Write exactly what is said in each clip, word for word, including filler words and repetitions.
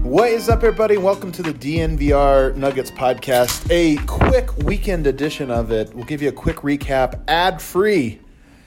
What is up, everybody? Welcome to the D N V R Nuggets podcast. A quick weekend edition of it. We'll give you a quick recap, ad-free,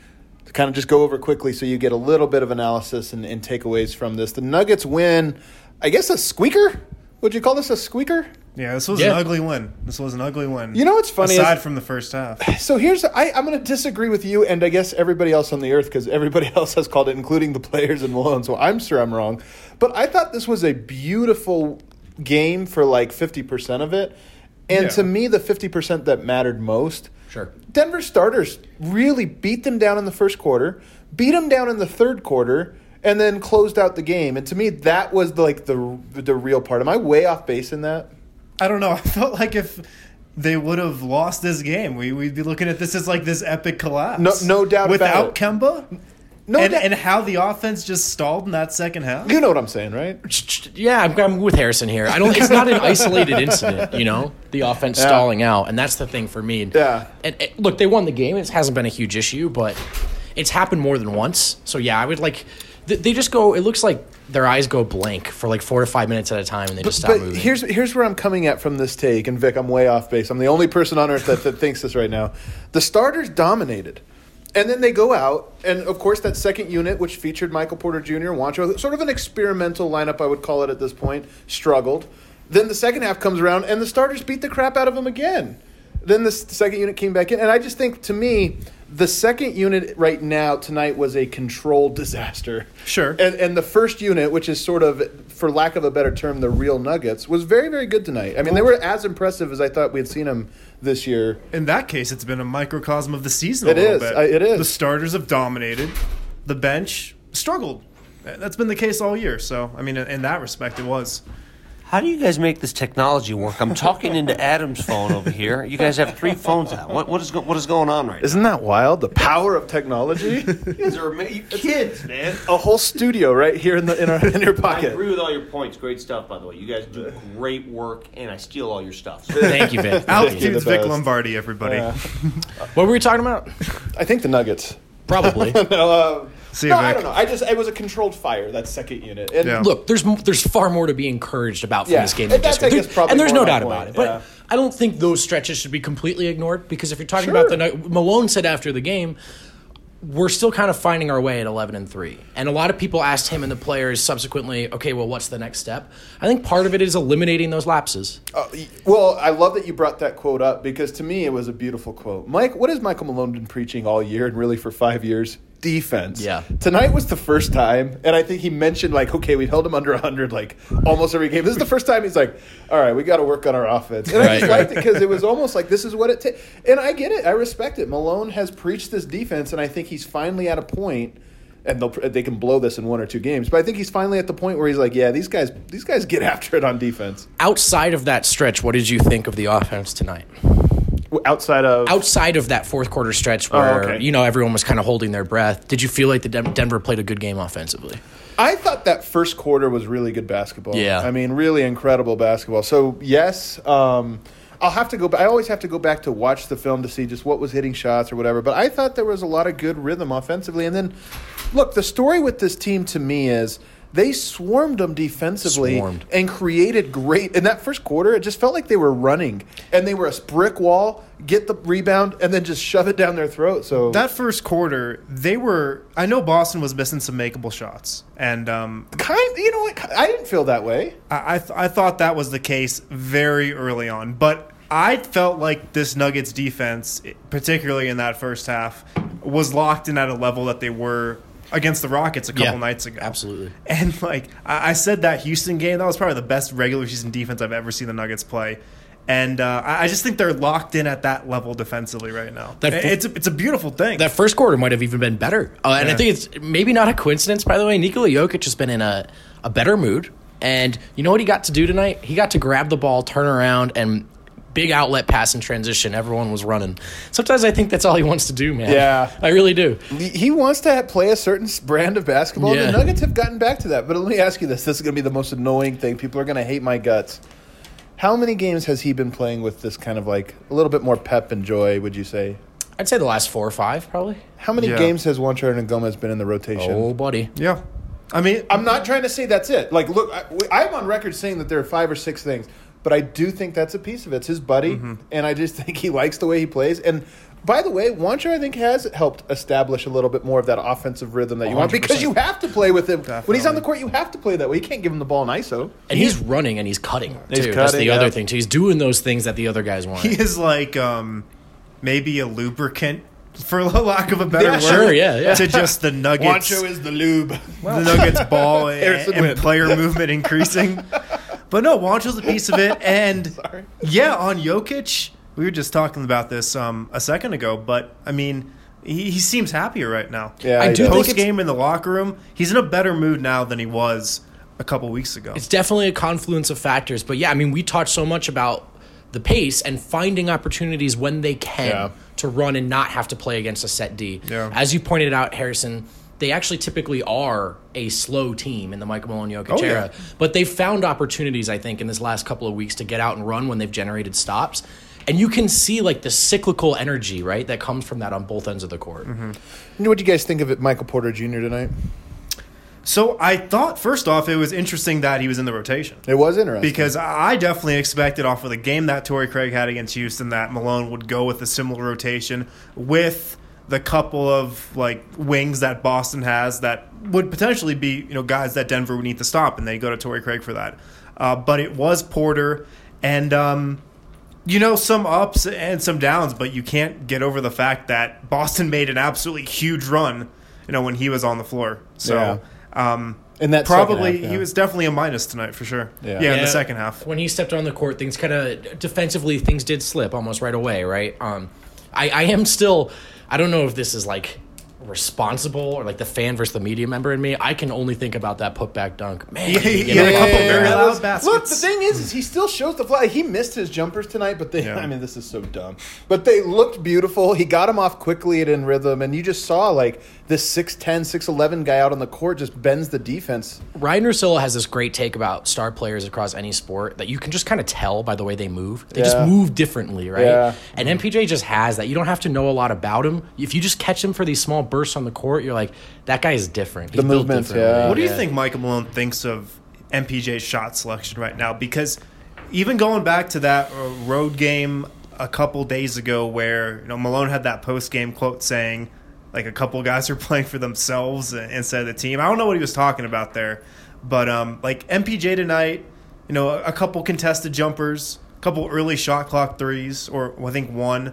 to kind of just go over quickly so you get a little bit of analysis and, and takeaways from this. The Nuggets win, I guess, a squeaker? Would you call this a squeaker? Yeah, this was yeah. an ugly win. This was an ugly win. You know what's funny? Aside is, from the first half. So here's, I, I'm going to disagree with you and I guess everybody else on the earth because everybody else has called it, including the players and Malone, so I'm sure I'm wrong. But I thought this was a beautiful game for like fifty percent of it. And Yeah. to me, the fifty percent that mattered most, Sure. Denver starters really beat them down in the first quarter, beat them down in the third quarter, and then closed out the game. And to me, that was the, like the the real part. Am I way off base in that? I don't know. I felt like if they would have lost this game, we, we'd be looking at this as like this epic collapse. No, no doubt Without about it. Kemba? No and, doubt. and how the offense just stalled in that second half? You know what I'm saying, right? Yeah, I'm, I'm with Harrison here. I don't. It's not an isolated incident, you know, the offense Yeah. stalling out, and that's the thing for me. Yeah. And, and look, they won the game. It hasn't been a huge issue, but it's happened more than once. So yeah, I would like. They, they just go. It looks like their eyes go blank for like four to five minutes at a time, and they just stop But moving. here's here's where I'm coming at from this take, and Vic, I'm way off base. I'm the only person on earth that, that thinks this right now. The starters dominated. And then they go out, and of course that second unit, which featured Michael Porter Junior, Juancho, sort of an experimental lineup, I would call it at this point, struggled. Then the second half comes around, and the starters beat the crap out of them again. Then the second unit came back in, and I just think, to me, the second unit right now tonight was a controlled disaster. Sure. And and the first unit, which is sort of, for lack of a better term, the real Nuggets, was very, very good tonight. I mean, they were as impressive as I thought we had seen them this year. In that case, it's been a microcosm of the season It a little is. bit. I- it is. The starters have dominated. The bench struggled. That's been the case all year. So, I mean, in, in that respect, it was. How do you guys make this technology work? I'm talking into Adam's phone over here. You guys have three phones out. What, what is go, what is going on right now? Isn't that wild? The power of technology. You guys are ama- you kids, man. A whole studio right here in the in, our, in your I pocket. agree with all your points. Great stuff, by the way. You guys do great work, and I steal all your stuff. So Thank you, Vic. Altitude's the Vic best. Lombardi, everybody. Yeah. What were we talking about? I think the Nuggets. Probably. no, uh, See you, no I Vic. don't know. I just it was a controlled fire, that second unit. And Yeah. Look, there's there's far more to be encouraged about from Yeah. this game. And Than that's, just I guess, there- probably and there's more no my doubt point, about it. But yeah. I don't think those stretches should be completely ignored because if you're talking Sure. about the night, Malone said after the game, we're still kind of finding our way at eleven and three. And a lot of people asked him and the players subsequently, okay, well, what's the next step? I think part of it is eliminating those lapses. Uh, well, I love that you brought that quote up because to me it was a beautiful quote. Mike, what has Michael Malone been preaching all year and really for five years? Defense. Yeah. Tonight was the first time, and I think he mentioned, like, okay, we held him under one hundred, like, almost every game. This is the first time he's like, all right, we got to work on our offense. And I just Right. liked it because it was almost like this is what it takes. And I get it. I respect it. Malone has preached this defense, and I think he's finally at a point, and they'll, they can blow this in one or two games, but I think he's finally at the point where he's like, yeah, these guys, these guys get after it on defense. Outside of that stretch, what did you think of the offense tonight? Outside of... Outside of that fourth quarter stretch where, Oh, okay. you know, everyone was kind of holding their breath, did you feel like the Den- Denver played a good game offensively? I thought that first quarter was really good basketball. Yeah. I mean, really incredible basketball. So, yes, um, I'll have to go back. I always have to go back to watch the film to see just what was hitting shots or whatever. But I thought there was a lot of good rhythm offensively. And then, look, the story with this team to me is they swarmed them defensively Swarmed. and created great. In that first quarter, it just felt like they were running. And they were a brick wall, get the rebound, and then just shove it down their throat. So That first quarter, they were. I know Boston was missing some makeable shots, and um, kind, you know what? I didn't feel that way. I I, th- I thought that was the case very early on. But I felt like this Nuggets defense, particularly in that first half, was locked in at a level that they were against the Rockets a couple Yeah, nights ago. absolutely. And like I, I said, that Houston game, that was probably the best regular season defense I've ever seen the Nuggets play. And uh, I I just think they're locked in at that level defensively right now. That f- it's a, it's a beautiful thing. That first quarter might have even been better. Uh, and I Yeah. think it's maybe not a coincidence, by the way. Nikola Jokic has been in a, a better mood. And you know what he got to do tonight? He got to grab the ball, turn around, and big outlet pass and transition. Everyone was running. Sometimes I think that's all he wants to do, man. Yeah. I really do. He wants to play a certain brand of basketball. Yeah. The Nuggets have gotten back to that. But let me ask you this. This is going to be the most annoying thing. People are going to hate my guts. How many games has he been playing with this kind of like a little bit more pep and joy, would you say? I'd say the last four or five, probably. How many Yeah. games has Juancho and Gomez been in the rotation? Oh, buddy. yeah. I mean, I'm not trying to say that's it. Like, look, I, I'm on record saying that there are five or six things, but I do think that's a piece of it. It's his buddy, mm-hmm. and I just think he likes the way he plays. And by the way, Juancho, I think, has helped establish a little bit more of that offensive rhythm that you want, because you have to play with him. Definitely. When he's on the court, you have to play that way. You can't give him the ball in I S O. And he's running and he's cutting, too. He's cutting, That's the yeah. other thing, too. He's doing those things that the other guys want. He is like um, maybe a lubricant, for lack of a better yeah, word, sure, yeah, yeah. to just the Nuggets. Juancho is the lube. The Nuggets ball and, and player movement increasing. But no, Juancho's a piece of it. And Sorry. yeah, on Jokic, we were just talking about this um, a second ago, but I mean, he, he seems happier right now. Yeah, I he do does. think Post game in the locker room, he's in a better mood now than he was a couple weeks ago. It's definitely a confluence of factors. But yeah, I mean, we talked so much about the pace and finding opportunities when they can Yeah. to run and not have to play against a set D. Yeah. As you pointed out, Harrison, they actually typically are a slow team in the Michael Malone Jokic Oh, yeah. era. But they've found opportunities, I think, in this last couple of weeks to get out and run when they've generated stops. And you can see like the cyclical energy, right, that comes from that on both ends of the court. Mm-hmm. What do you guys think of it, Michael Porter Junior tonight? So I thought, first off, it was interesting that he was in the rotation. It was interesting. Because I definitely expected off of the game that Torrey Craig had against Houston that Malone would go with a similar rotation with the couple of like wings that Boston has that would potentially be, you know, guys that Denver would need to stop, and they go to Torrey Craig for that. Uh, but it was Porter, and um, you know, some ups and some downs, but you can't get over the fact that Boston made an absolutely huge run, you know, when he was on the floor. So. Yeah. Um, In that probably second half, yeah. he was definitely a minus tonight for sure. Yeah. Yeah, in Yeah. the second half. When he stepped on the court, things kind of defensively, things did slip almost right away, right? Um, I, I am still, I don't know if this is like responsible or like the fan versus the media member in me. I can only think about that putback dunk. Man, Yeah, he you had know, a couple yeah, very yeah. loud Look, baskets. Look, the thing is, is he still shows the fly. He missed his jumpers tonight, but they, Yeah. I mean, this is so dumb. But they looked beautiful. He got him off quickly and in rhythm, and you just saw, like, this six ten, six eleven guy out on the court just bends the defense. Ryan Russillo has this great take about star players across any sport that you can just kind of tell by the way they move. They Yeah. just move differently, right? Yeah. And M P J just has that. You don't have to know a lot about him. If you just catch him for these small bursts on the court, you're like, that guy is different. He's The built movements, differently. yeah. What do you Yeah. think Michael Malone thinks of M P J's shot selection right now? Because even going back to that uh, road game a couple days ago where, you know, Malone had that post-game quote saying, like, a couple guys are playing for themselves instead of the team. I don't know what he was talking about there. But, um, like, M P J tonight, you know, a couple contested jumpers, a couple early shot clock threes, or I think one.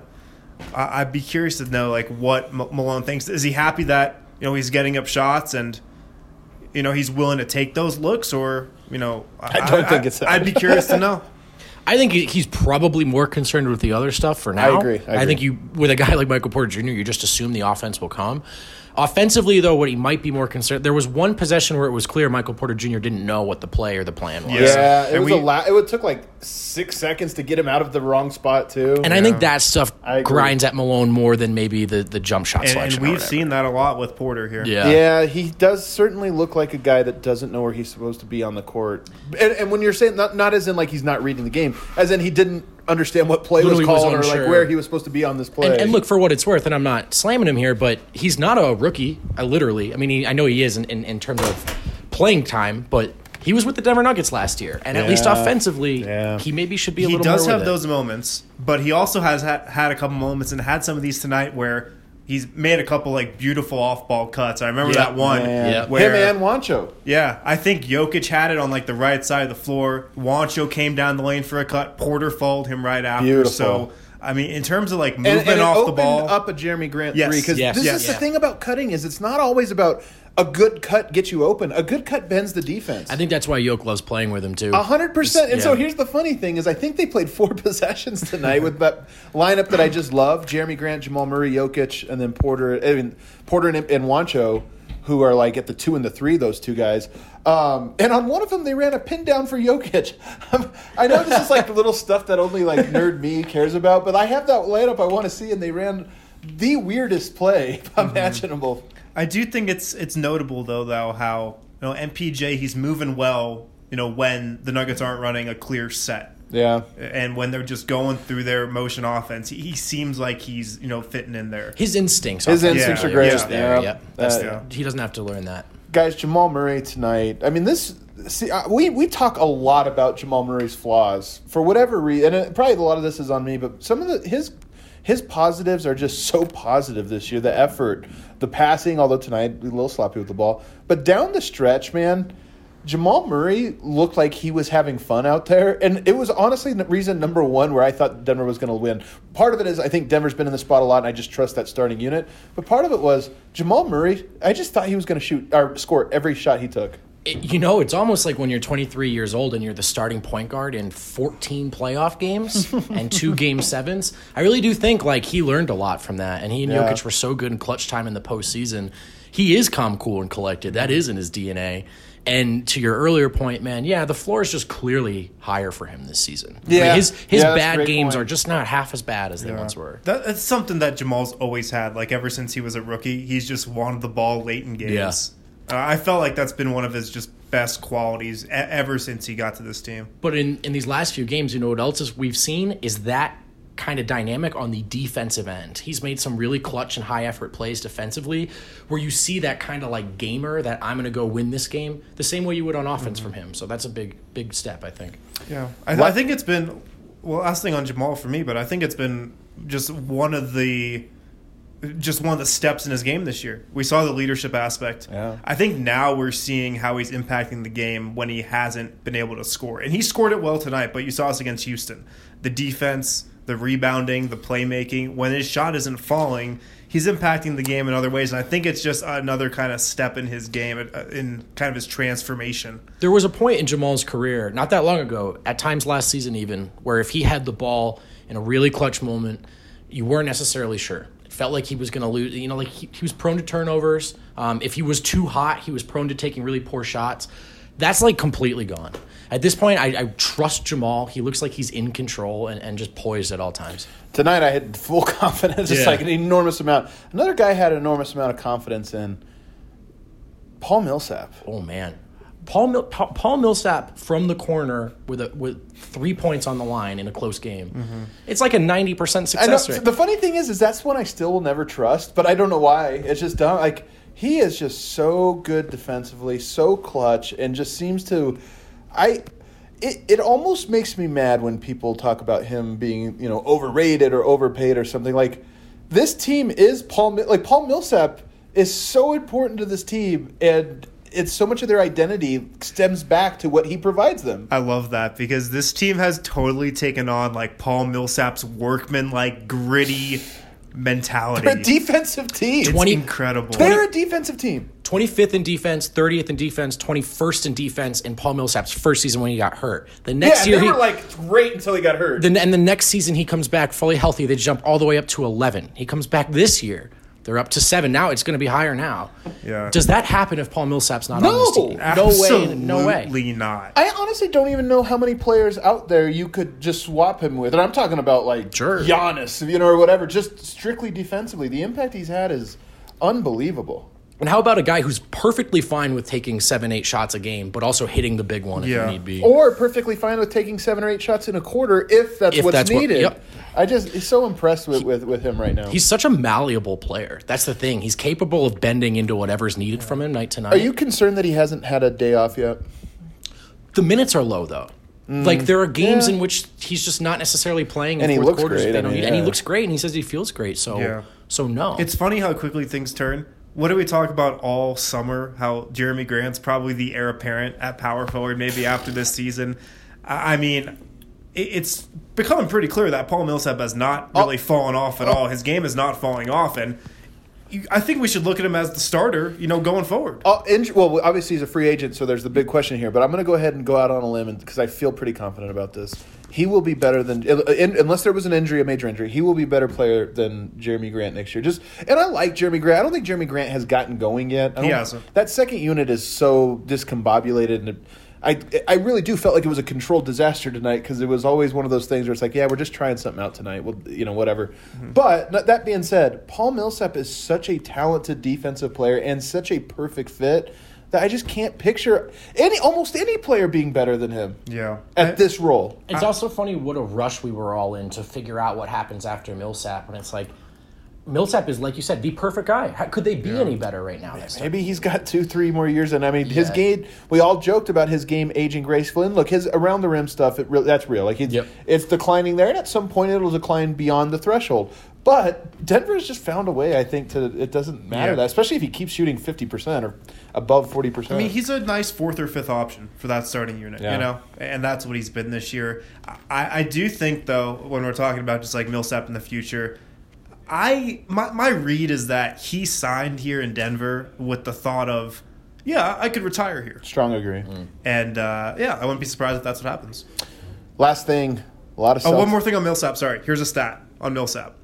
I- I'd be curious to know, like, what M- Malone thinks. Is he happy that, you know, he's getting up shots and, you know, he's willing to take those looks, or, you know, I don't think it's that. I'd be curious to know. I think he- he's probably more concerned with the other stuff for now. I agree, I agree. think you, with a guy like Michael Porter Junior, you just assume the offense will come. Offensively, though, what he might be more concerned, there was one possession where it was clear Michael Porter Junior didn't know what the play or the plan was. Yeah. Yeah, it And was we- a lot. It took like six seconds to get him out of the wrong spot, too. And I think that stuff I agree. grinds at Malone more than maybe the, the jump shot And, selection. and or we've whatever. seen that a lot with Porter here. Yeah. Yeah, he does certainly look like a guy that doesn't know where he's supposed to be on the court. And, and when you're saying not not as in like he's not reading the game, as in he didn't understand what play Literally was was called or like unsure. where he was supposed to be on this play. And, and look, for what it's worth, and I'm not slamming him here, but he's not a rookie. I literally, I mean, he, I know he is in, in, in terms of playing time, but he was with the Denver Nuggets last year, and at least Yeah. offensively, Yeah. he maybe should be a He little does more have with it. those moments, but he also has ha- had a couple moments and had some of these tonight where he's made a couple like beautiful off-ball cuts. I remember Yeah. that one Man. Yeah. where him and Juancho. yeah, I think Jokic had it on like the right side of the floor. Juancho came down the lane for a cut. Porter followed him right after. Beautiful. So I mean, in terms of like And, movement and it off the opened ball, up a Jeremy Grant Yes. three because Yes. this Yes. is the Yeah. thing about cutting is it's not always about a good cut gets you open. A good cut bends the defense. I think that's why Yoke loves playing with him too. A hundred percent. And so Yeah. here's the funny thing is I think they played four possessions tonight with that lineup that I just love: Jeremy Grant, Jamal Murray, Jokic, and then Porter. I mean Porter and, and Juancho, who are like at the two and the three. Those two guys. Um, and on one of them, they ran a pin down for Jokic. I know this is like little stuff that only like nerd me cares about, but I have that lineup I want to see, and they ran the weirdest play imaginable. I do think it's it's notable though, though how you know M P J he's moving well. You know when the Nuggets aren't running a clear set, Yeah. and when they're just going through their motion offense, he, he seems like he's you know fitting in there. His instincts, His offensively instincts are are great. just there. Yeah. Yep. That's Uh, the- he doesn't have to learn that. Guys, Jamal Murray tonight. I mean, this. See, uh, we we talk a lot about Jamal Murray's flaws for whatever reason, and it, probably a lot of this is on me. But some of the his his positives are just so positive this year. The effort, the passing. Although tonight a little sloppy with the ball, but down the stretch, man, Jamal Murray looked like he was having fun out there, and it was honestly the reason number one where I thought Denver was going to win. Part of it is I think Denver's been in the spot a lot, and I just trust that starting unit. But part of it was Jamal Murray. I just thought he was going to shoot or score every shot he took. It, you know, it's almost like when you're twenty-three years old and you're the starting point guard in fourteen playoff games and two game sevens. I really do think like he learned a lot from that, and he and Yeah. Jokic were so good in clutch time in the postseason. He is calm, cool, and collected. That is in his D N A. And to your earlier point, man, yeah, the floor is just clearly higher for him this season. I mean, Yeah. his his Yeah, that's a bad great games point. are just not half as bad as they once were. That, that's something that Jamal's always had. Like ever since he was a rookie, he's just wanted the ball late in games. Yeah. Uh, I felt like that's been one of his just best qualities e- ever since he got to this team. But in, in these last few games, you know what else is we've seen is that kind of dynamic on the defensive end. He's made some really clutch and high effort plays defensively where you see that kind of like gamer that I'm going to go win this game the same way you would on offense from him. So that's a big, big step, I think. Yeah, I, I think it's been well. Last thing on Jamal for me, but I think it's been just one of the just one of the steps in his game this year. We saw the leadership aspect. Yeah. I think now we're seeing how he's impacting the game when he hasn't been able to score, and he scored it well tonight. But you saw us against Houston, the defense, the rebounding, the playmaking. When his shot isn't falling, he's impacting the game in other ways, and I think it's just another kind of step in his game, uh, in kind of his transformation. There was a point in Jamal's career, not that long ago, at times last season even, where if he had the ball in a really clutch moment, you weren't necessarily sure. It felt like he was going to lose. You know, like he, he was prone to turnovers. Um, if he was too hot, he was prone to taking really poor shots. That's like completely gone. At this point, I, I trust Jamal. He looks like he's in control and, and just poised at all times. Tonight I had full confidence, just Yeah. like an enormous amount. Another guy had an enormous amount of confidence in Paul Millsap. Oh, man. Paul Mil- Pa- Paul Millsap from the corner with a, with three points on the line in a close game. Mm-hmm. It's like a ninety percent I know, success rate. the funny thing is, is that's one I still will never trust, but I don't know why. It's just dumb. Like he is just so good defensively, so clutch, and just seems to. I. It it almost makes me mad when people talk about him being, you know, overrated or overpaid or something. Like this team is Paul. Mi- Like Paul Millsap is so important to this team, and it's so much of their identity stems back to what he provides them. I love that because this team has totally taken on like Paul Millsap's workman, like gritty mentality. They're a defensive team. It's twenty incredible. They're a defensive team. twenty-fifth in defense, thirtieth in defense, twenty-first in defense in Paul Millsap's first season when he got hurt. The next Yeah, year they he, were like great until he got hurt. the, and the next season he comes back fully healthy. They jump all the way up to eleven. He comes back this year. They're up to seven. Now it's going to be higher now. Yeah. Does that happen if Paul Millsap's not No. on this team? No way. No way. Absolutely not. I honestly don't even know how many players out there you could just swap him with. And I'm talking about like Sure. Giannis, you know, or whatever, just strictly defensively. The impact he's had is unbelievable. And how about a guy who's perfectly fine with taking seven, eight shots a game, but also hitting the big one if Yeah. you need be? Or perfectly fine with taking seven or eight shots in a quarter if that's If what's that's what- needed. yep. I just he's so impressed with, with, with him right now. He's such a malleable player. That's the thing. He's capable of bending into whatever's needed from him night to night. Are you concerned that he hasn't had a day off yet? The minutes are low, though. Like, there are games Yeah. in which he's just not necessarily playing in And he fourth looks quarters. great, They I don't mean, need- And he yeah. looks great, and he says he feels great. So, Yeah. so no. It's funny how quickly things turn. What do we talk about all summer? How Jeremy Grant's probably the heir apparent at power forward, maybe after this season. I I mean, it- it's becoming pretty clear that Paul Millsap has not really fallen off at all. His game is not falling off, and you, I think we should look at him as the starter, you know, going forward. Uh, inj- well, obviously he's a free agent, so there's the big question here. But I'm going to go ahead and go out on a limb because I feel pretty confident about this. He will be better than, in, unless there was an injury, a major injury, he will be a better player than Jeremy Grant next year. Just, and I like Jeremy Grant. I don't think Jeremy Grant has gotten going yet. I He don't- hasn't. That second unit is so discombobulated, and it, I, I really do felt like it was a controlled disaster tonight because it was always one of those things where it's like, yeah, we're just trying something out tonight. Well, you know, whatever. Mm-hmm. But n- that being said, Paul Millsap is such a talented defensive player and such a perfect fit that I just can't picture any almost any player being better than him Yeah. at I- this role. It's also funny what a rush we were all in to figure out what happens after Millsap. And it's like, Millsap is, like you said, the perfect guy. How, could they be yeah. any better right now? Maybe he's got two, three more years. And I mean, his yeah. game. We all joked about his game aging gracefully. And look, his around the rim stuff. It really, that's real. Like it's, yep. it's declining there, and at some point it'll decline beyond the threshold. But Denver's just found a way, I think, to it doesn't matter yeah. that, especially if he keeps shooting fifty percent or above forty percent. I mean, he's a nice fourth or fifth option for that starting unit, yeah. you know, and that's what he's been this year. I, I do think, though, when we're talking about just like Millsap in the future, I my my read is that he signed here in Denver with the thought of, yeah, I could retire here. Strong agree. Mm. And uh, yeah, I wouldn't be surprised if that's what happens. Last thing, a lot of. Oh, one more thing on Millsap. Sorry, here's a stat on Millsap.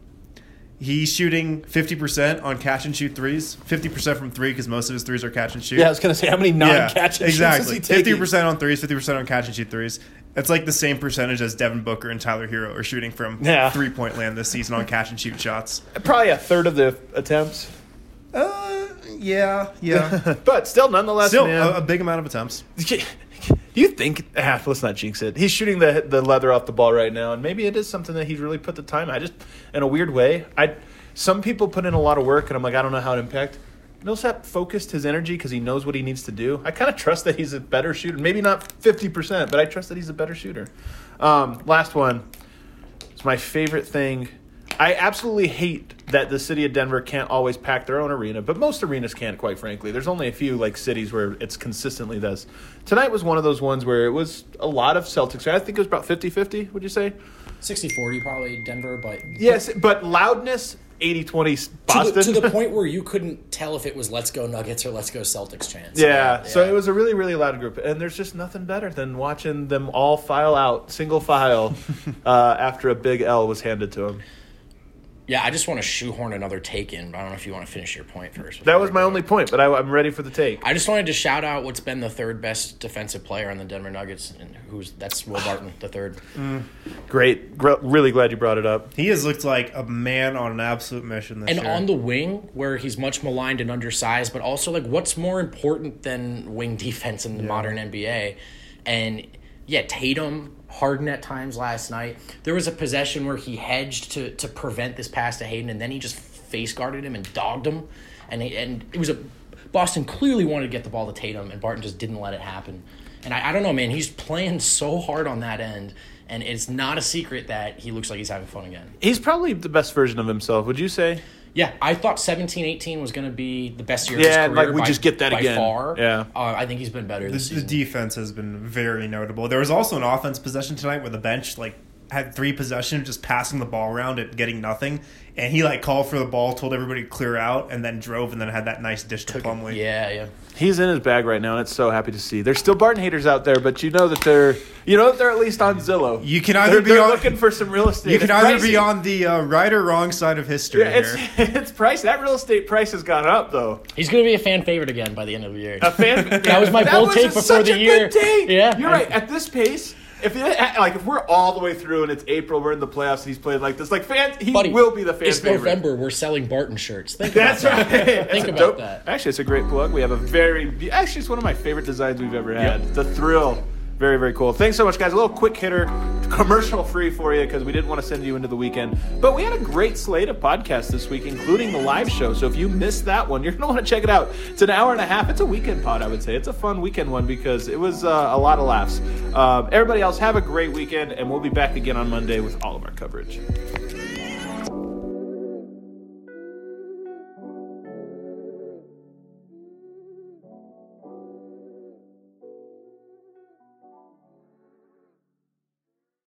He's shooting fifty percent on catch and shoot threes, fifty percent from three because most of his threes are catch and shoot. Yeah, I was going to say, how many non-catch yeah, and exactly. shoots is he taking? fifty percent on threes, fifty percent on catch and shoot threes. It's like the same percentage as Devin Booker and Tyler Hero are shooting from yeah. three-point land this season on catch and shoot shots. Probably a third of the attempts. Uh, yeah, yeah. But still, nonetheless, Still, man. a, a big amount of attempts. Do you think? Ah, let's not jinx it. He's shooting the the leather off the ball right now, and maybe it is something that he's really put the time. I just, in a weird way, I. Some people put in a lot of work, and I'm like, I don't know how it impact. Millsap focused his energy because he knows what he needs to do. I kind of trust that he's a better shooter. Maybe not fifty percent, but I trust that he's a better shooter. Um, last one. It's my favorite thing. I absolutely hate that the city of Denver can't always pack their own arena, but most arenas can't, quite frankly. There's only a few like cities where it's consistently this. Tonight was one of those ones where it was a lot of Celtics. I think it was about fifty-fifty, would you say? sixty forty probably Denver, but... Yes, but loudness... eighty twenty Boston. To the, to the point where you couldn't tell if it was Let's Go Nuggets or Let's Go Celtics chants. Yeah, yeah, so yeah. it was a really, really loud group. And there's just nothing better than watching them all file out, single file, uh, after a big L was handed to them. Yeah, I just want to shoehorn another take in. But I don't know if you want to finish your point first. That was my only point, but I, I'm ready for the take. I just wanted to shout out what's been the third best defensive player on the Denver Nuggets, and who's that's Will Barton, the third. Mm. Great. Gr- really glad you brought it up. He has looked like a man on an absolute mission this and year. And on the wing, where he's much maligned and undersized, but also, like, what's more important than wing defense in the yeah. modern N B A? And, yeah, Tatum... Harden at times last night. There was a possession where he hedged to to prevent this pass to Hayden, and then he just face guarded him and dogged him. And he, and it was a Boston clearly wanted to get the ball to Tatum, and Barton just didn't let it happen. And I, I don't know, man. He's playing so hard on that end, and it's not a secret that he looks like he's having fun again. He's probably the best version of himself, would you say? Yeah, I thought seventeen eighteen was going to be the best year yeah, of his career. like we by, just get that by again. far. Yeah, uh, I think he's been better this the, season. The defense has been very notable. There was also an offense possession tonight where the bench like had three possessions just passing the ball around and getting nothing, and he like called for the ball, told everybody to clear out, and then drove, and then had that nice dish to Took, Plumlee. Yeah, yeah. He's in his bag right now, and it's so happy to see. There's still Barton haters out there, but you know that they're you know that they're at least on Zillow. You can either they're, be they're on, looking for some real estate. You can it's either pricey. be on the uh, right or wrong side of history. Yeah, it's here. it's pricey. That real estate price has gone up though. He's going to be a fan favorite again by the end of the year. A fan. That was my that bold was take a, before such the a year. Good take. Yeah, you're right. At this pace. If it, like if we're all the way through and it's April, we're in the playoffs and he's playing like this, like fans, he Buddy, will be the fan it's favorite. November. We're selling Barton shirts. Think That's about that. right. Think That's about dope, that. Actually, it's a great plug. We have a very actually it's one of my favorite designs we've ever had. Yep. The Thrill, very very cool. Thanks so much, guys. A little quick hitter, commercial free for you because we didn't want to send you into the weekend, but we had a great slate of podcasts this week, including the live show. So if you missed that one, you're gonna want to check it out. It's an hour and a half. It's a weekend pod, I would say. It's a fun weekend one because it was uh, a lot of laughs. Um, everybody else, have a great weekend, and we'll be back again on Monday with all of our coverage.